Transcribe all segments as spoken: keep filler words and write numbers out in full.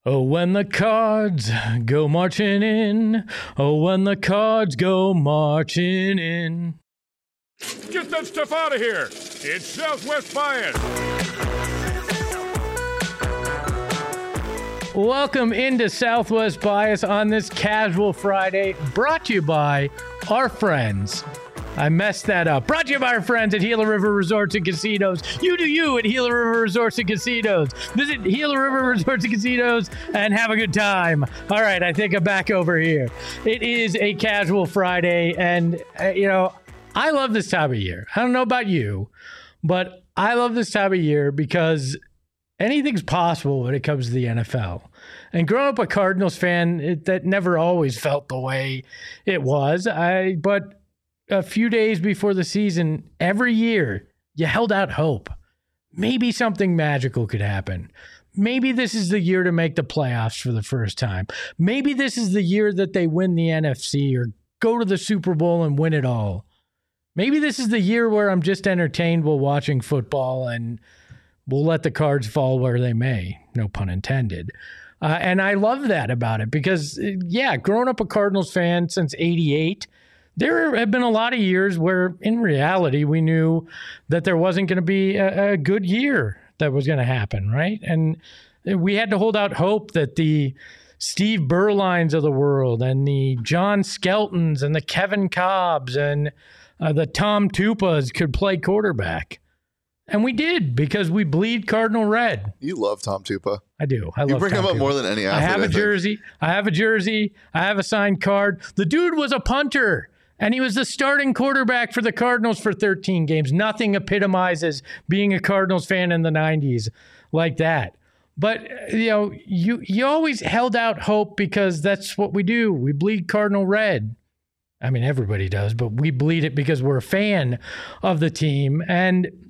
Oh, when the Cards go marching in. Oh, when the Cards go marching in. Get that stuff out of here. It's Southwest Bias. Welcome into Southwest Bias on this casual Friday, brought to you by our friends. I messed that up. Brought to you by our friends at Gila River Resorts and Casinos. You do you at Gila River Resorts and Casinos. Visit Gila River Resorts and Casinos and have a good time. All right, I think I'm back over here. It is a casual Friday, and, uh, you know, I love this time of year. I don't know about you, but I love this time of year because anything's possible when it comes to the N F L. And growing up a Cardinals fan, it, that never always felt the way it was. I but a few days before the season, every year, you held out hope. Maybe something magical could happen. Maybe this is the year to make the playoffs for the first time. Maybe this is the year that they win the N F C or go to the Super Bowl and win it all. Maybe this is the year where I'm just entertained while watching football and we'll let the cards fall where they may. No pun intended. Uh, and I love that about it because, yeah, growing up a Cardinals fan since eighty-eight, there have been a lot of years where, in reality, we knew that there wasn't going to be a, a good year that was going to happen, right? And we had to hold out hope that the Steve Berlines of the world and the John Skeltons and the Kevin Cobbs and uh, the Tom Tupas could play quarterback. And we did because we bleed Cardinal red. You love Tom Tupa. I do. I you love bring Tom him up Tupa. more than any athlete. I have a I jersey. I have a jersey. I have a signed card. The dude was a punter, and he was the starting quarterback for the Cardinals for thirteen games. Nothing epitomizes being a Cardinals fan in the nineties like that. But, you know, you, you always held out hope because that's what we do. We bleed Cardinal red. I mean, everybody does, but we bleed it because we're a fan of the team. And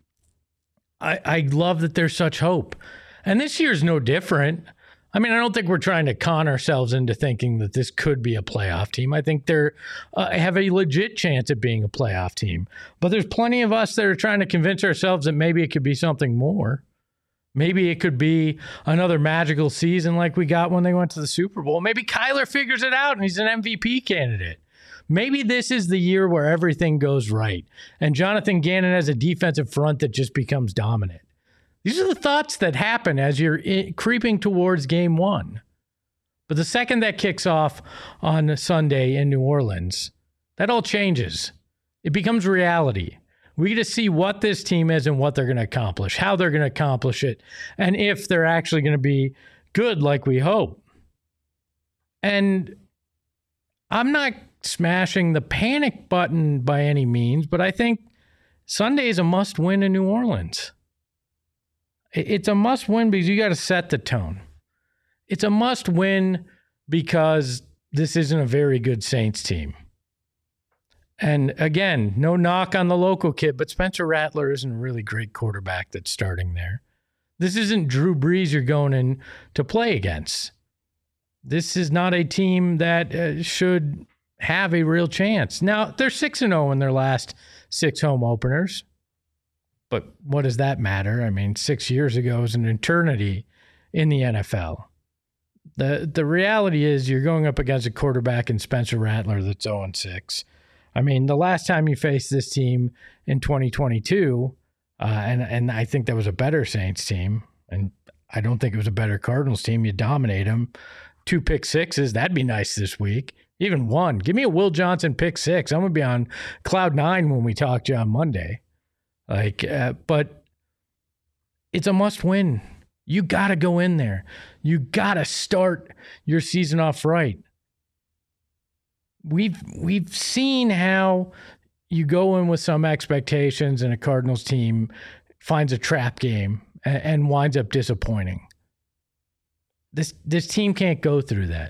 I, I love that there's such hope. And this year's no different. I mean, I don't think we're trying to con ourselves into thinking that this could be a playoff team. I think they're uh, have a legit chance at being a playoff team. But there's plenty of us that are trying to convince ourselves that maybe it could be something more. Maybe it could be another magical season like we got when they went to the Super Bowl. Maybe Kyler figures it out and he's an M V P candidate. Maybe this is the year where everything goes right and Jonathan Gannon has a defensive front that just becomes dominant. These are the thoughts that happen as you're in, creeping towards game one. But the second that kicks off on Sunday in New Orleans, that all changes. It becomes reality. We get to see what this team is and what they're going to accomplish, how they're going to accomplish it, and if they're actually going to be good like we hope. And I'm not smashing the panic button by any means, but I think Sunday is a must-win in New Orleans. It's a must-win because you got to set the tone. It's a must-win because this isn't a very good Saints team. And again, no knock on the local kid, but Spencer Rattler isn't a really great quarterback that's starting there. This isn't Drew Brees you're going in to play against. This is not a team that uh, should have a real chance. Now, they're six and oh in their last six home openers. But what does that matter? I mean, six years ago is an eternity in the N F L. The the reality is you're going up against a quarterback in Spencer Rattler that's oh and six. I mean, the last time you faced this team in twenty twenty-two, uh, and, and I think that was a better Saints team, and I don't think it was a better Cardinals team. You dominate them. Two pick sixes, that'd be nice this week. Even one. Give me a Will Johnson pick six. I'm going to be on cloud nine when we talk to you on Monday. Like, uh, but it's a must win. You got to go in there. You got to start your season off right. We've we've seen how you go in with some expectations and a Cardinals team finds a trap game and, and winds up disappointing. This this team can't go through that.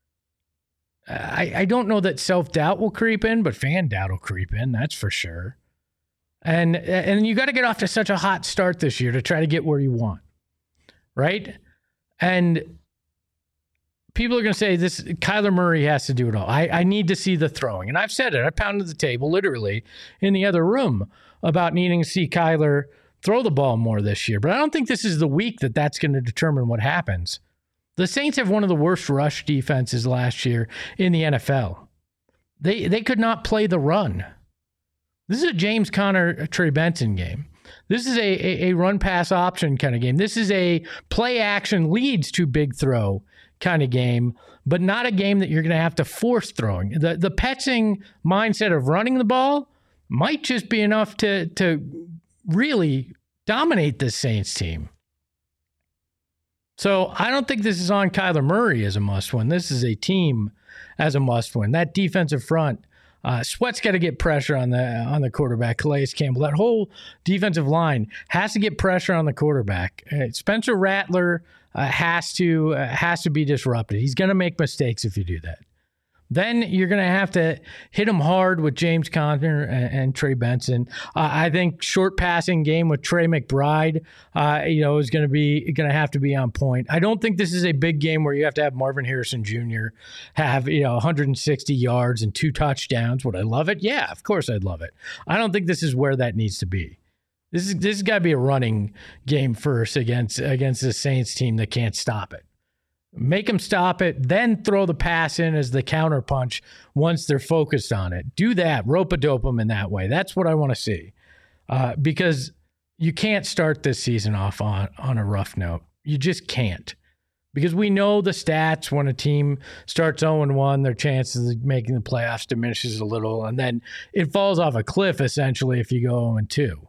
I, I don't know that self-doubt will creep in, but fan doubt will creep in, that's for sure. And and you got to get off to such a hot start this year to try to get where you want, right? And people are going to say this, Kyler Murray has to do it all. I, I need to see the throwing. And I've said it. I pounded the table literally in the other room about needing to see Kyler throw the ball more this year. But I don't think this is the week that that's going to determine what happens. The Saints have one of the worst rush defenses last year in the N F L. They they could not play the run. This is a James Conner, Trey Benson game. This is a, a, a run-pass option kind of game. This is a play-action leads to big throw kind of game, but not a game that you're going to have to force throwing. The the Petzing mindset of running the ball might just be enough to to really dominate this Saints team. So I don't think this is on Kyler Murray as a must-win. This is a team as a must-win. That defensive front, uh, Sweat's got to get pressure on the on the quarterback. Calais Campbell, that whole defensive line has to get pressure on the quarterback. Uh, Spencer Rattler uh, has to uh, has to be disrupted. He's going to make mistakes if you do that. Then you're going to have to hit him hard with James Conner and, and Trey Benson. Uh, I think short passing game with Trey McBride, uh, you know, is going to be going to have to be on point. I don't think this is a big game where you have to have Marvin Harrison Junior have, you know, one hundred sixty yards and two touchdowns. Would I love it? Yeah, of course I'd love it. I don't think this is where that needs to be. This is this has got to be a running game first against against the Saints team that can't stop it. Make them stop it, then throw the pass in as the counter punch once they're focused on it. Do that. Rope-a-dope them in that way. That's what I want to see. Uh, because you can't start this season off on, on a rough note. You just can't. Because we know the stats when a team starts oh and one, their chances of making the playoffs diminishes a little, and then it falls off a cliff, essentially, if you go oh and two.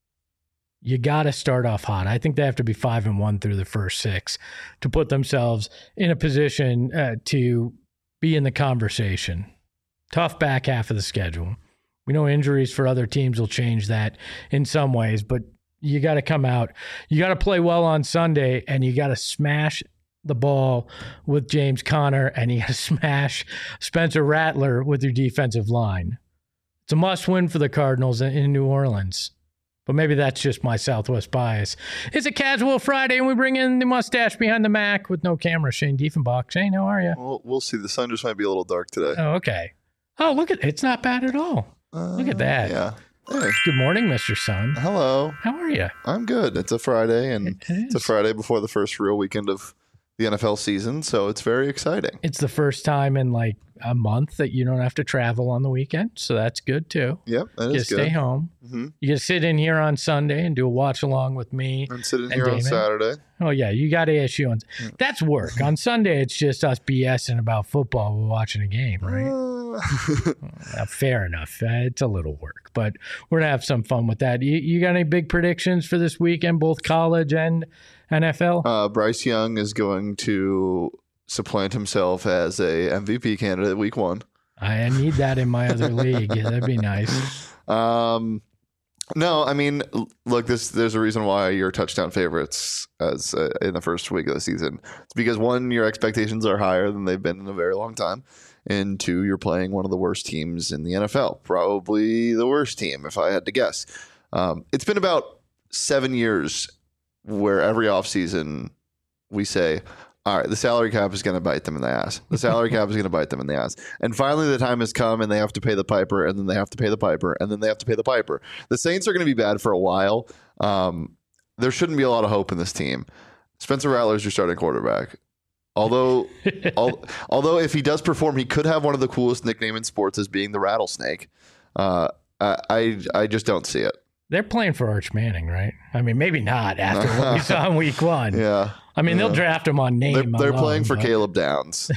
You got to start off hot. I think they have to be five and one through the first six to put themselves in a position uh, to be in the conversation. Tough back half of the schedule. We know injuries for other teams will change that in some ways, but you got to come out. You got to play well on Sunday, and you got to smash the ball with James Conner, and you got to smash Spencer Rattler with your defensive line. It's a must-win for the Cardinals in New Orleans. But maybe that's just my Southwest bias. It's a casual Friday, and we bring in the mustache behind the Mac with no camera, Shane Diefenbach. Shane, how are you? Well, we'll see. The sun just might be a little dark today. Oh, okay. Oh, look at it. It's not bad at all. Uh, look at that. Yeah. Hey. Good morning, Mister Sun. Hello. How are you? I'm good. It's a Friday, and it it's a Friday before the first real weekend of the N F L season, so it's very exciting. It's the first time in like a month that you don't have to travel on the weekend, so that's good too. Yep, that you is good. Stay home. Mm-hmm. You get to sit in here on Sunday and do a watch along with me. And sit in and here Damon. on Saturday. Oh yeah, you got A S U on. Yeah. That's work. On Sunday, it's just us BSing about football while watching a game, right? Uh. uh, fair enough. Uh, it's a little work, but we're gonna have some fun with that. You, you got any big predictions for this weekend, both college and N F L? Uh, Bryce Young is going to supplant himself as a M V P candidate week one. I need that in my other league. Yeah, that'd be nice. Um, no, I mean, look, this there's a reason why you're touchdown favorites as uh, in the first week of the season. It's because one, your expectations are higher than they've been in a very long time, and two, you're playing one of the worst teams in the N F L, probably the worst team if I had to guess. Um, it's been about seven years where every offseason we say, all right, the salary cap is going to bite them in the ass. The salary cap is going to bite them in the ass. And finally, the time has come, and they have to pay the piper, and then they have to pay the piper, and then they have to pay the piper. The Saints are going to be bad for a while. Um, there shouldn't be a lot of hope in this team. Spencer Rattler is your starting quarterback. Although, al- although if he does perform, he could have one of the coolest nicknames in sports as being the Rattlesnake. Uh, I, I just don't see it. They're playing for Arch Manning, right? I mean, maybe not after what we saw in week one. Yeah. I mean, yeah. they'll draft him on name. They're, they're alone, playing for but... Caleb Downs.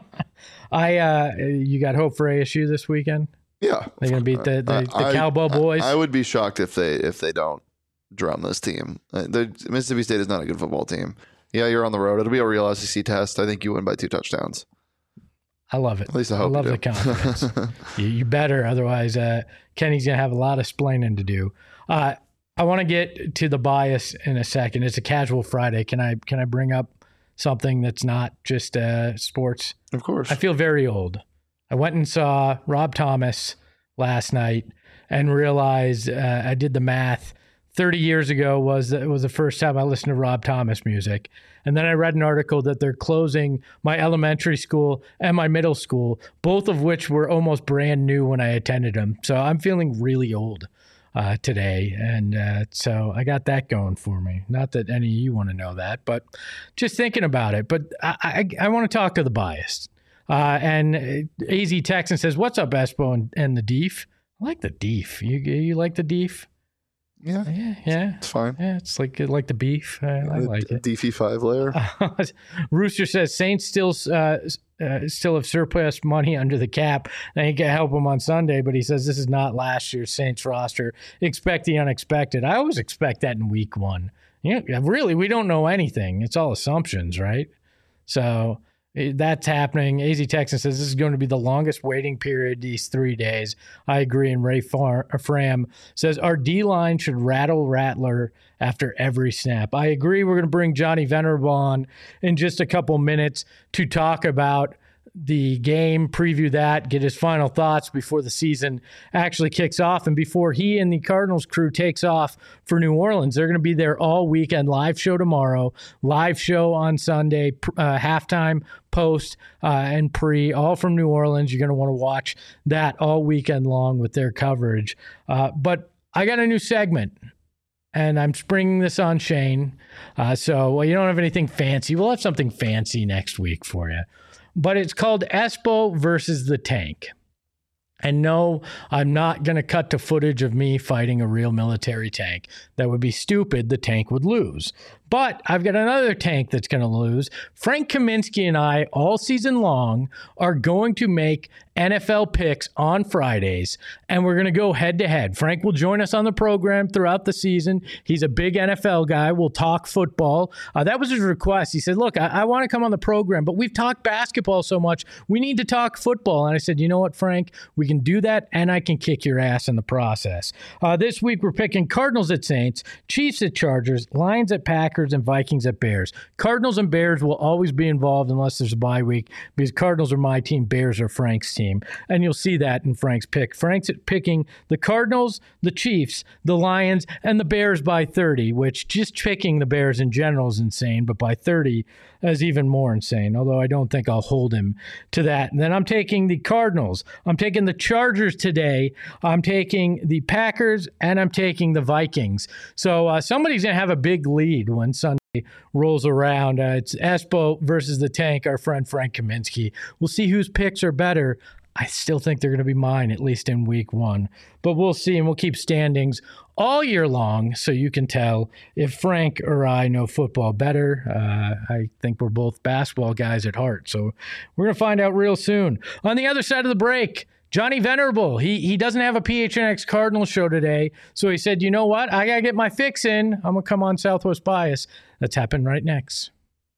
I, uh, you got hope for A S U this weekend? Yeah. They're going to beat the, the, the I, Cowboy boys? I, I would be shocked if they if they don't drum this team. The, Mississippi State is not a good football team. Yeah, you're on the road. It'll be a real S E C test. I think you win by two touchdowns. I love it. At least I hope I love you the confidence. you, you better. Otherwise, uh, Kenny's going to have a lot of splaining to do. Uh, I want to get to the bias in a second. It's a casual Friday. Can I can I bring up something that's not just uh, sports? Of course. I feel very old. I went and saw Rob Thomas last night and realized uh, I did the math. thirty years ago was was the first time I listened to Rob Thomas music. And then I read an article that they're closing my elementary school and my middle school, both of which were almost brand new when I attended them. So I'm feeling really old. uh, today. And uh, so I got that going for me. Not that any of you want to know that, but just thinking about it. But I, I, I want to talk to the biased. Uh, and A Z Texan says, "What's up, Espo and, and the Deef?" I like the Deef. You you like the Deef? Yeah, yeah, yeah. It's fine. Yeah, it's like like the beef. I, I like it. D F I five layer. Uh, Rooster says Saints still uh, uh, still have surplus money under the cap. They ain't gonna help them on Sunday, but he says this is not last year's Saints roster. Expect the unexpected. I always expect that in week one. Yeah, really, we don't know anything. It's all assumptions, right? So that's happening. A Z Texan says this is going to be the longest waiting period these three days. I agree. And Ray Far- Fram says our D-line should rattle Rattler after every snap. I agree. We're going to bring Johnny Venerable on in just a couple minutes to talk about the game, preview that, get his final thoughts before the season actually kicks off and before he and the Cardinals crew takes off for New Orleans. They're going to be there all weekend. Live show tomorrow, live show on Sunday, uh, halftime, post, uh, and pre, all from New Orleans. You're going to want to watch that all weekend long with their coverage. Uh, but I got a new segment. And I'm springing this on Shane. Uh, so well, you don't have anything fancy. We'll have something fancy next week for you. But it's called Espo versus the Tank. And no, I'm not going to cut to footage of me fighting a real military tank. That would be stupid. The tank would lose. But I've got another tank that's going to lose. Frank Kaminsky and I, all season long, are going to make N F L picks on Fridays, and we're going to go head-to-head. Frank will join us on the program throughout the season. He's a big N F L guy. We'll talk football. Uh, that was his request. He said, look, I, I want to come on the program, but we've talked basketball so much. We need to talk football. And I said, you know what, Frank? We can do that, and I can kick your ass in the process. Uh, this week, we're picking Cardinals at Saints, Chiefs at Chargers, Lions at Packers, and Vikings at Bears. Cardinals and Bears will always be involved unless there's a bye week because Cardinals are my team, Bears are Frank's team. And you'll see that in Frank's pick. Frank's picking the Cardinals, the Chiefs, the Lions, and the Bears by thirty, which just picking the Bears in general is insane, but by thirty is even more insane, although I don't think I'll hold him to that. And then I'm taking the Cardinals. I'm taking the Chargers today. I'm taking the Packers, and I'm taking the Vikings. So uh, somebody's going to have a big lead when Sunday rolls around. Uh, it's Espo versus the Tank, our friend Frank Kaminsky. We'll see whose picks are better. I still think they're going to be mine, at least in week one. But we'll see, and we'll keep standings all year long so you can tell if Frank or I know football better. Uh, I think we're both basketball guys at heart, so we're going to find out real soon. On the other side of the break, Johnny Venerable, he he doesn't have a P H N X Cardinals show today, so he said, you know what? I got to get my fix in. I'm going to come on Southwest Bias. That's happening right next.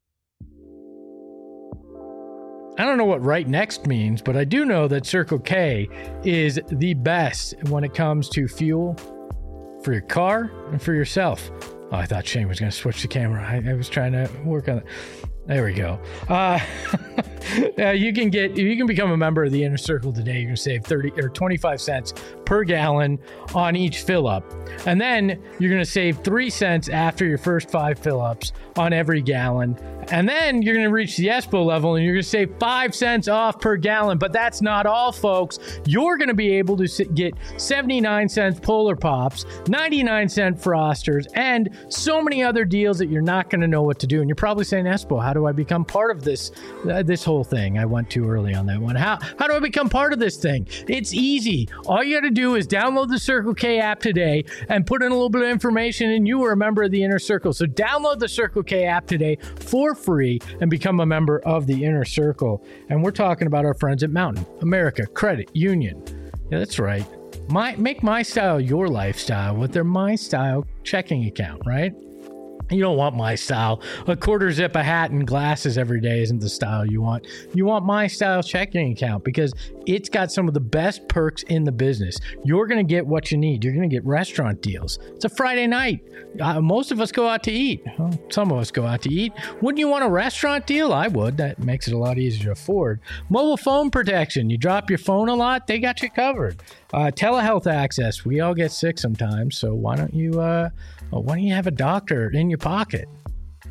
I don't know what right next means, but I do know that Circle K is the best when it comes to fuel for your car and for yourself. Oh, I thought Shane was going to switch the camera. I, I was trying to work on it. There we go. Uh, uh, you can get, you can become a member of the Inner Circle today. You're going to save thirty or twenty-five cents per gallon on each fill up. And then you're going to save three cents after your first five fill ups on every gallon. And then you're going to reach the Espo level and you're going to save five cents off per gallon. But that's not all, folks. You're going to be able to get seventy-nine cents Polar Pops, ninety-nine cent Frosters, and so many other deals that you're not going to know what to do. And you're probably saying, Espo, how do I become part of this uh, this whole thing? I went too early on that one. How, how do I become part of this thing? It's easy. All you got to do is download the Circle K app today and put in a little bit of information, and you are a member of the Inner Circle. So download the Circle K app today for free and become a member of the Inner Circle. And we're talking about our friends at Mountain America Credit Union. Yeah, that's right. My make my style your lifestyle with their My Style checking account, right? You don't want My Style. A quarter zip, a hat, and glasses every day isn't the style you want. You want My Style checking account because it's got some of the best perks in the business. You're going to get what you need. You're going to get restaurant deals. It's a Friday night. Uh, most of us go out to eat. Well, some of us go out to eat. Wouldn't you want a restaurant deal? I would. That makes it a lot easier to afford. Mobile phone protection. You drop your phone a lot, they got you covered. Uh, telehealth access. We all get sick sometimes, so why don't you uh, why don't you have a doctor in your pocket?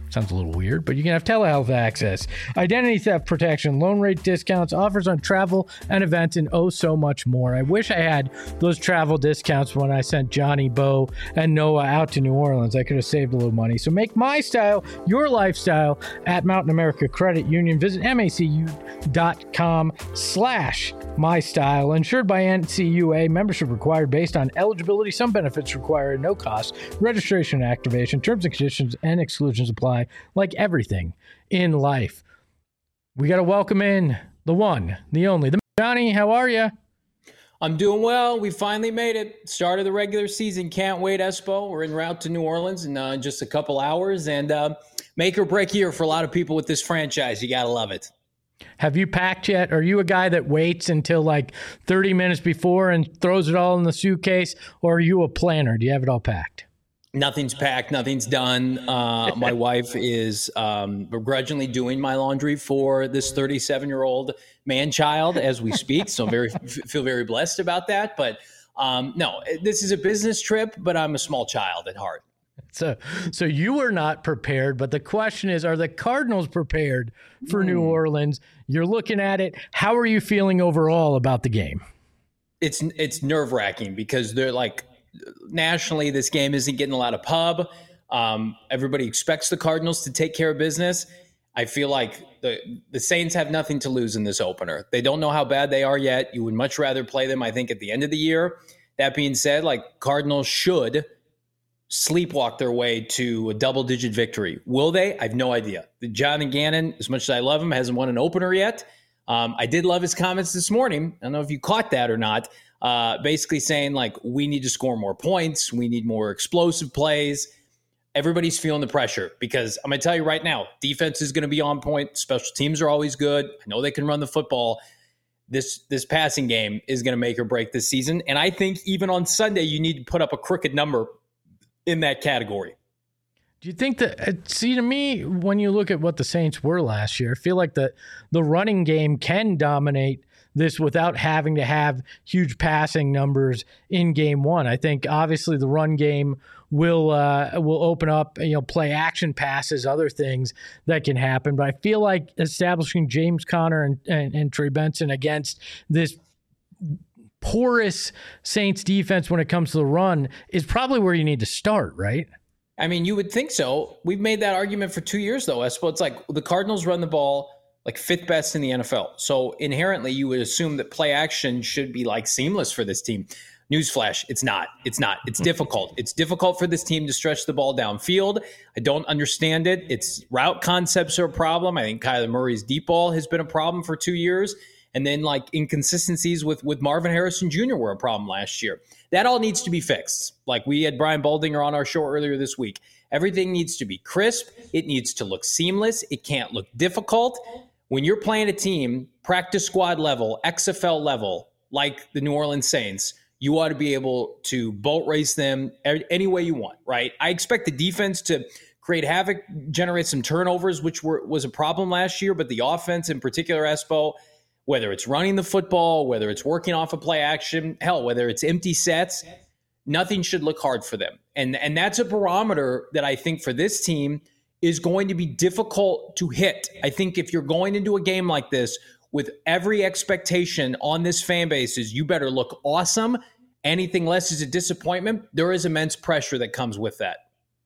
Sounds a little weird, but you can have telehealth access, identity theft protection, loan rate discounts, offers on travel and events, and oh so much more. I wish I had those travel discounts when I sent Johnny, Bo, and Noah out to New Orleans. I could have saved a little money. So make my style your lifestyle at Mountain America Credit Union. Visit macu.com slash my style. Insured by N C U A. Membership required based on eligibility. Some benefits require no cost. Registration and activation. Terms and conditions and exclusions apply. Like everything in life. We got to welcome in the one, the only, the Johnny. How are you? I'm doing well. We finally made it. Start of the regular season. Can't wait, Espo. We're en route to New Orleans in uh, just a couple hours, and uh, make or break year for a lot of people with this franchise. You got to love it. Have you packed yet? Are you a guy that waits until like thirty minutes before and throws it all in the suitcase, or are you a planner? Do you have it all packed? Nothing's packed. Nothing's done. Uh, my wife is um, begrudgingly doing my laundry for this thirty-seven-year-old man-child as we speak. So I'm very feel very blessed about that. But um, no, this is a business trip, but I'm a small child at heart. So, so you were not prepared, but the question is, are the Cardinals prepared for mm. New Orleans? You're looking at it. How are you feeling overall about the game? It's it's nerve-wracking because they're like, nationally, this game isn't getting a lot of pub. Um, everybody expects the Cardinals to take care of business. I feel like the the Saints have nothing to lose in this opener. They don't know how bad they are yet. You would much rather play them, I think, at the end of the year. That being said, like, Cardinals should sleepwalk their way to a double-digit victory. Will they? I have no idea. John Gannon, as much as I love him, hasn't won an opener yet. Um, I did love his comments this morning. I don't know if you caught that or not. Uh, basically saying, like, we need to score more points. We need more explosive plays. Everybody's feeling the pressure because I'm going to tell you right now, defense is going to be on point. Special teams are always good. I know they can run the football. This this passing game is going to make or break this season. And I think even on Sunday, you need to put up a crooked number in that category. Do you think that, see, to me, when you look at what the Saints were last year, I feel like the, the running game can dominate this without having to have huge passing numbers in game one. I think obviously the run game will uh, will open up, you know, play action passes, other things that can happen. But I feel like establishing James Conner and, and, and Trey Benson against this porous Saints defense when it comes to the run is probably where you need to start, right? I mean, you would think so. We've made that argument for two years, though, Espo. It's like the Cardinals run the ball like fifth best in the N F L. So inherently, you would assume that play action should be like seamless for this team. Newsflash, it's not. It's not. It's difficult. It's difficult for this team to stretch the ball downfield. I don't understand it. Its route concepts are a problem. I think Kyler Murray's deep ball has been a problem for two years. And then like inconsistencies with, with Marvin Harrison Junior were a problem last year. That all needs to be fixed. Like we had Brian Baldinger on our show earlier this week. Everything needs to be crisp. It needs to look seamless. It can't look difficult. When you're playing a team, practice squad level, X F L level, like the New Orleans Saints, you ought to be able to boat race them any way you want, right? I expect the defense to create havoc, generate some turnovers, which were, was a problem last year, but the offense in particular, Espo, whether it's running the football, whether it's working off a play action, hell, whether it's empty sets, nothing should look hard for them. And, and that's a barometer that I think for this team is going to be difficult to hit. I think if you're going into a game like this with every expectation on this fan base is you better look awesome, anything less is a disappointment, there is immense pressure that comes with that.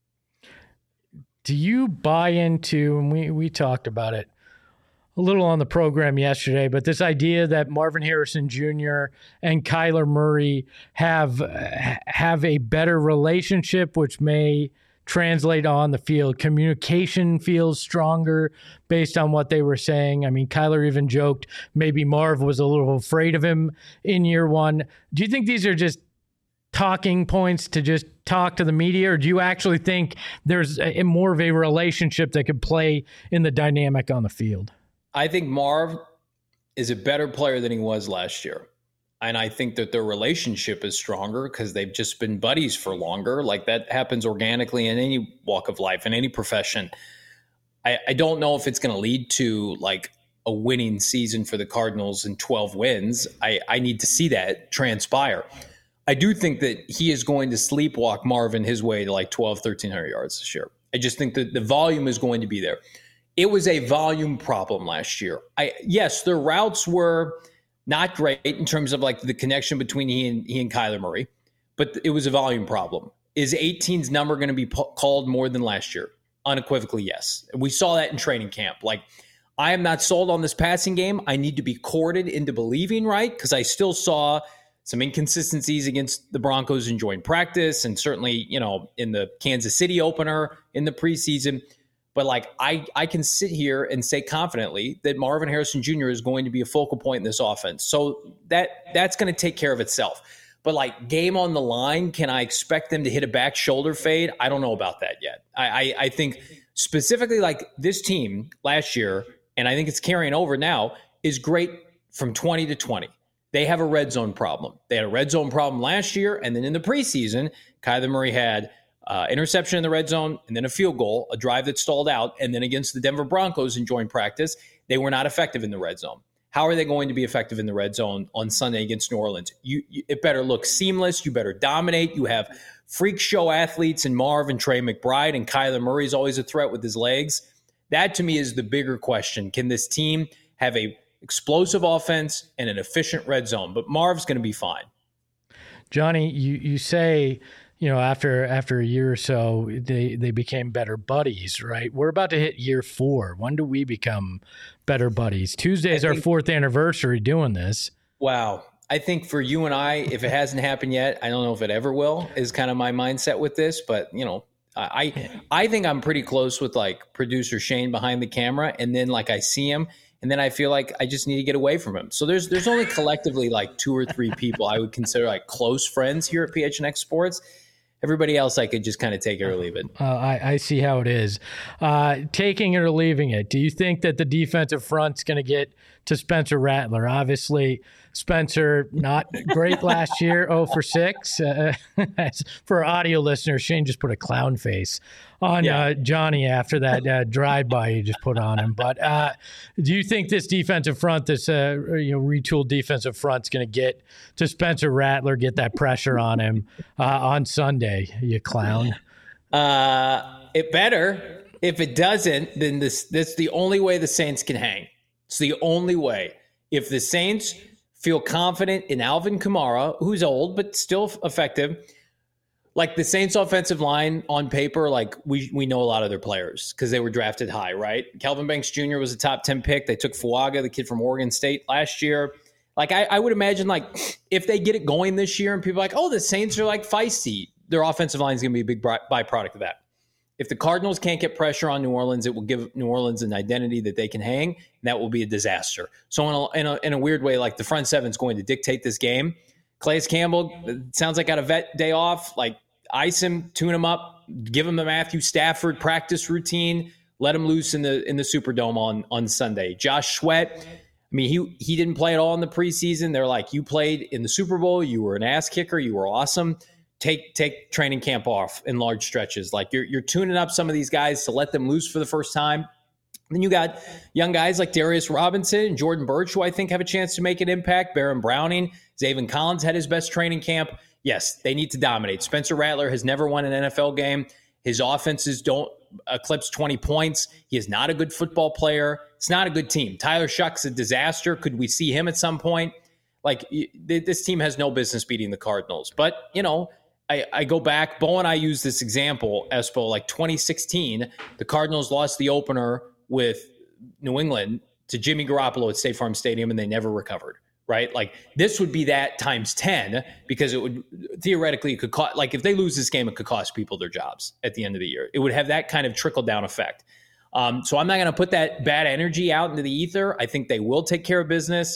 Do you buy into, and we, we talked about it a little on the program yesterday, but this idea that Marvin Harrison Junior and Kyler Murray have have a better relationship, which may translate on the field. Communication feels stronger based on what they were saying. I mean, Kyler even joked maybe Marv was a little afraid of him in year one. Do you think these are just talking points to just talk to the media, or do you actually think there's a, more of a relationship that could play in the dynamic on the field? I think Marv is a better player than he was last year. And I think that their relationship is stronger because they've just been buddies for longer. Like that happens organically in any walk of life, in any profession. I, I don't know if it's going to lead to like a winning season for the Cardinals and twelve wins. I, I need to see that transpire. I do think that he is going to sleepwalk Marvin his way to like twelve, thirteen hundred yards this year. I just think that the volume is going to be there. It was a volume problem last year. I yes, their routes were not great in terms of like the connection between he and he and Kyler Murray, but it was a volume problem. Is eighteen's number going to be po- called more than last year? Unequivocally, yes. We saw that in training camp. Like, I am not sold on this passing game. I need to be courted into believing, right? Because I still saw some inconsistencies against the Broncos in joint practice and certainly, you know, in the Kansas City opener in the preseason. But like, I, I can sit here and say confidently that Marvin Harrison Junior is going to be a focal point in this offense. So that that's going to take care of itself. But like, game on the line, can I expect them to hit a back shoulder fade? I don't know about that yet. I, I, I think specifically like this team last year, and I think it's carrying over now, is great from twenty to twenty. They have a red zone problem. They had a red zone problem last year, and then in the preseason, Kyler Murray had uh, interception in the red zone, and then a field goal, a drive that stalled out, and then against the Denver Broncos in joint practice, they were not effective in the red zone. How are they going to be effective in the red zone on Sunday against New Orleans? You, you, it better look seamless. You better dominate. You have freak show athletes in Marv and Trey McBride, and Kyler Murray is always a threat with his legs. That, to me, is the bigger question. Can this team have a explosive offense and an efficient red zone? But Marv's going to be fine. Johnny, you, you say, you know, after after a year or so, they, they became better buddies, right? We're about to hit year four. When do we become better buddies? Tuesday is our fourth anniversary doing this. Wow. I think for you and I, if it hasn't happened yet, I don't know if it ever will, is kind of my mindset with this. But, you know, I I think I'm pretty close with like producer Shane behind the camera. And then like I see him and then I feel like I just need to get away from him. So there's there's only collectively like two or three people I would consider like close friends here at P H N X Sports. Everybody else I could just kind of take it or leave it. Uh, I, I see how it is. Uh, taking it or leaving it. Do you think that the defensive front's going to get to Spencer Rattler? Obviously, Spencer, not great last year, oh for six. Uh, for our audio listeners, Shane just put a clown face on yeah. uh, Johnny after that uh, drive-by you just put on him. But uh, do you think this defensive front, this uh, you know retooled defensive front's going to get to Spencer Rattler, get that pressure on him uh, on Sunday, you clown? Uh, it better. If it doesn't, then this that's the only way the Saints can hang. It's the only way. If the Saints feel confident in Alvin Kamara, who's old but still effective, like the Saints offensive line on paper, like we we know a lot of their players because they were drafted high, right? Kelvin Banks Junior was a top ten pick. They took Fuaga, the kid from Oregon State, last year. Like I, I would imagine, like if they get it going this year, and people are like, oh, the Saints are like feisty, their offensive line is going to be a big byproduct of that. If the Cardinals can't get pressure on New Orleans, it will give New Orleans an identity that they can hang, and that will be a disaster. So in a, in a, in a weird way, like the front seven is going to dictate this game. Calais Campbell, it sounds like got a vet day off. Like ice him, tune him up, give him the Matthew Stafford practice routine, let him loose in the in the Superdome on on Sunday. Josh Sweat, I mean, he he didn't play at all in the preseason. They're like, you played in the Super Bowl, you were an ass kicker, you were awesome. Take take training camp off in large stretches. Like you're you're tuning up some of these guys to let them loose for the first time. Then you got young guys like Darius Robinson and Jordan Birch, who I think have a chance to make an impact. Baron Browning, Zaven Collins had his best training camp. Yes, they need to dominate. Spencer Rattler has never won an N F L game. His offenses don't eclipse twenty points. He is not a good football player. It's not a good team. Tyler Shuck's a disaster. Could we see him at some point? Like this team has no business beating the Cardinals. But, you know, I, I go back, Bo and I use this example, Espo, like twenty sixteen, the Cardinals lost the opener with New England to Jimmy Garoppolo at State Farm Stadium, and they never recovered, right? Like this would be that times ten because it would theoretically, it could cost, like if they lose this game, it could cost people their jobs at the end of the year. It would have that kind of trickle down effect. Um, so I'm not going to put that bad energy out into the ether. I think they will take care of business.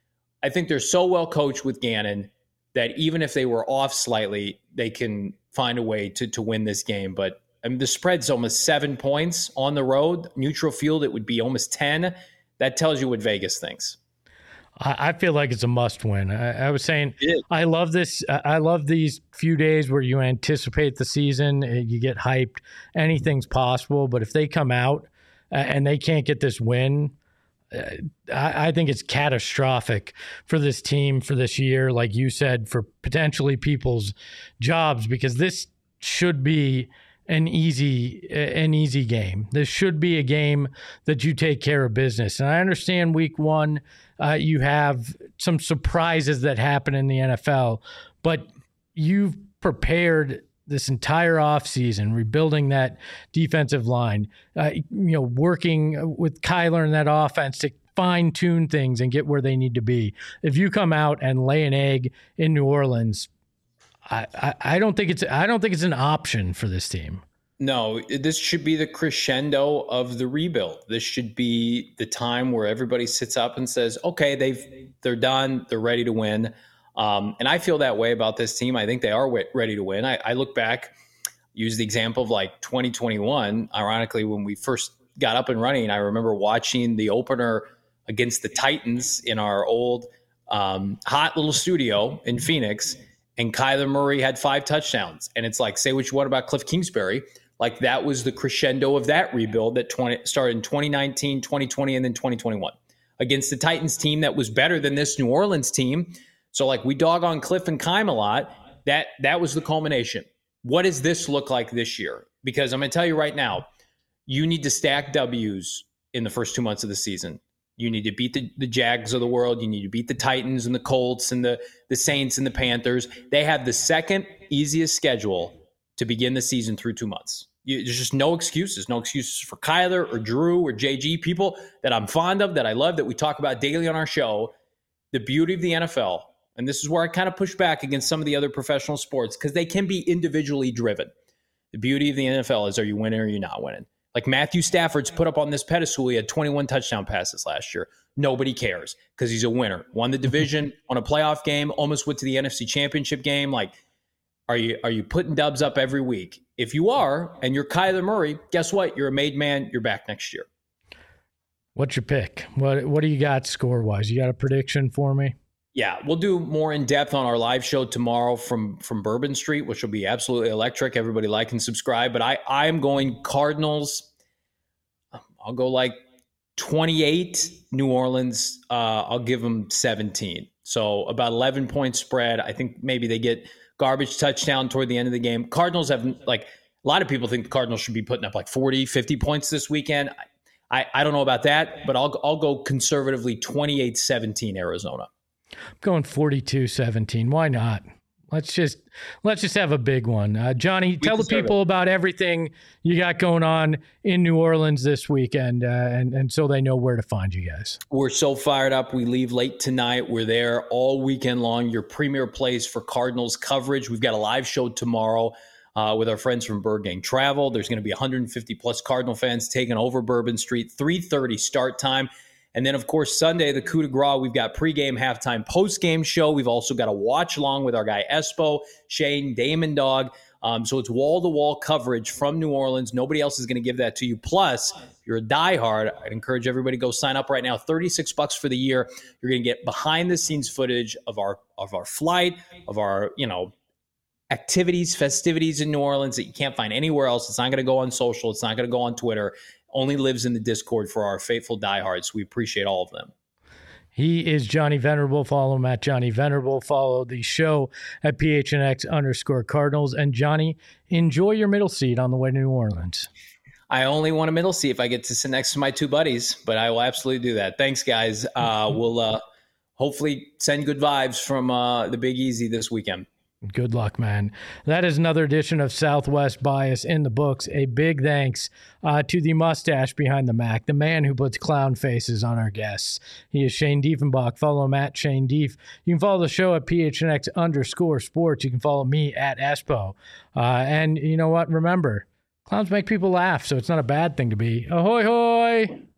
I think they're so well coached with Gannon that even if they were off slightly, they can find a way to to win this game. But I mean, the spread's almost seven points on the road. Neutral field, it would be almost ten. That tells you what Vegas thinks. I, I feel like it's a must win. I, I was saying, I love this. I love these few days where you anticipate the season, you get hyped, anything's possible. But if they come out and they can't get this win, I, I think it's catastrophic for this team for this year, like you said, for potentially people's jobs, because this should be an easy an easy game. This should be a game that you take care of business. And I understand week one, uh, you have some surprises that happen in the N F L, but you've prepared this entire offseason, rebuilding that defensive line, uh, you know, working with Kyler and that offense to fine tune things and get where they need to be. If you come out and lay an egg in New Orleans, I, I, I don't think it's I don't think it's an option for this team. No, this should be the crescendo of the rebuild. This should be the time where everybody sits up and says, "Okay, they've they're done. They're ready to win." Um, and I feel that way about this team. I think they are w- ready to win. I, I look back, use the example of like twenty twenty-one. Ironically, when we first got up and running, I remember watching the opener against the Titans in our old um, hot little studio in Phoenix. And Kyler Murray had five touchdowns. And it's like, say what you want about Cliff Kingsbury. Like that was the crescendo of that rebuild that twenty started in twenty nineteen, twenty twenty, and then twenty twenty-one against the Titans team that was better than this New Orleans team. So like we dog on Cliff and Kime a lot. That, that was the culmination. What does this look like this year? Because I'm going to tell you right now, you need to stack W's in the first two months of the season. You need to beat the, the Jags of the world. You need to beat the Titans and the Colts and the, the Saints and the Panthers. They have the second easiest schedule to begin the season through two months. You, there's just no excuses. No excuses for Kyler or Drew or J G, people that I'm fond of, that I love, that we talk about daily on our show. The beauty of the N F L, and this is where I kind of push back against some of the other professional sports because they can be individually driven. The beauty of the N F L is, are you winning or are you not winning? Like Matthew Stafford's put up on this pedestal. He had twenty-one touchdown passes last year. Nobody cares because he's a winner. Won the division, won a playoff game, almost went to the N F C Championship game. Like, are you are you putting dubs up every week? If you are, and you're Kyler Murray, guess what? You're a made man. You're back next year. What's your pick? What What do you got score-wise? You got a prediction for me? Yeah, we'll do more in depth on our live show tomorrow from, from Bourbon Street, which will be absolutely electric. Everybody like and subscribe. But I, I'm going Cardinals. I'll go like twenty-eight. New Orleans, uh, I'll give them seventeen. So about eleven point spread. I think maybe they get garbage touchdown toward the end of the game. Cardinals have, like, a lot of people think the Cardinals should be putting up like forty, fifty points this weekend. I, I don't know about that, but I'll I'll go conservatively twenty-eight seventeen Arizona. I'm going forty-two seventeen. Why not? Let's just let's just have a big one. Uh, Johnny, we tell the people it. about everything you got going on in New Orleans this weekend, uh, and, and so they know where to find you guys. We're so fired up. We leave late tonight. We're there all weekend long. Your premier place for Cardinals coverage. We've got a live show tomorrow uh, with our friends from Bird Gang Travel. There's going to be one hundred fifty plus Cardinal fans taking over Bourbon Street. three thirty start time. And then, of course, Sunday, the coup de grace, we've got pregame, halftime, postgame show. We've also got a watch along with our guy Espo, Shane, Damon Dog. Um, so it's wall-to-wall coverage from New Orleans. Nobody else is going to give that to you. Plus, if you're a diehard, I'd encourage everybody to go sign up right now. thirty-six bucks for the year. You're going to get behind-the-scenes footage of our of our flight, of our, you know, activities, festivities in New Orleans that you can't find anywhere else. It's not going to go on social. It's not going to go on Twitter. Only lives in the Discord for our faithful diehards. We appreciate all of them. He is Johnny Venerable. Follow him at Johnny Venerable. Follow the show at P H N X underscore Cardinals. And Johnny, enjoy your middle seat on the way to New Orleans. I only want a middle seat if I get to sit next to my two buddies, but I will absolutely do that. Thanks, guys. Uh, we'll uh, hopefully send good vibes from uh, the Big Easy this weekend. Good luck, man. That is another edition of Southwest Bias in the books. A big thanks uh, to the mustache behind the Mac, the man who puts clown faces on our guests. He is Shane Diefenbach. Follow him at Shane Dief. You can follow the show at P H N X underscore sports. You can follow me at Espo. Uh, and you know what? Remember, clowns make people laugh, so it's not a bad thing to be. Ahoy, hoy!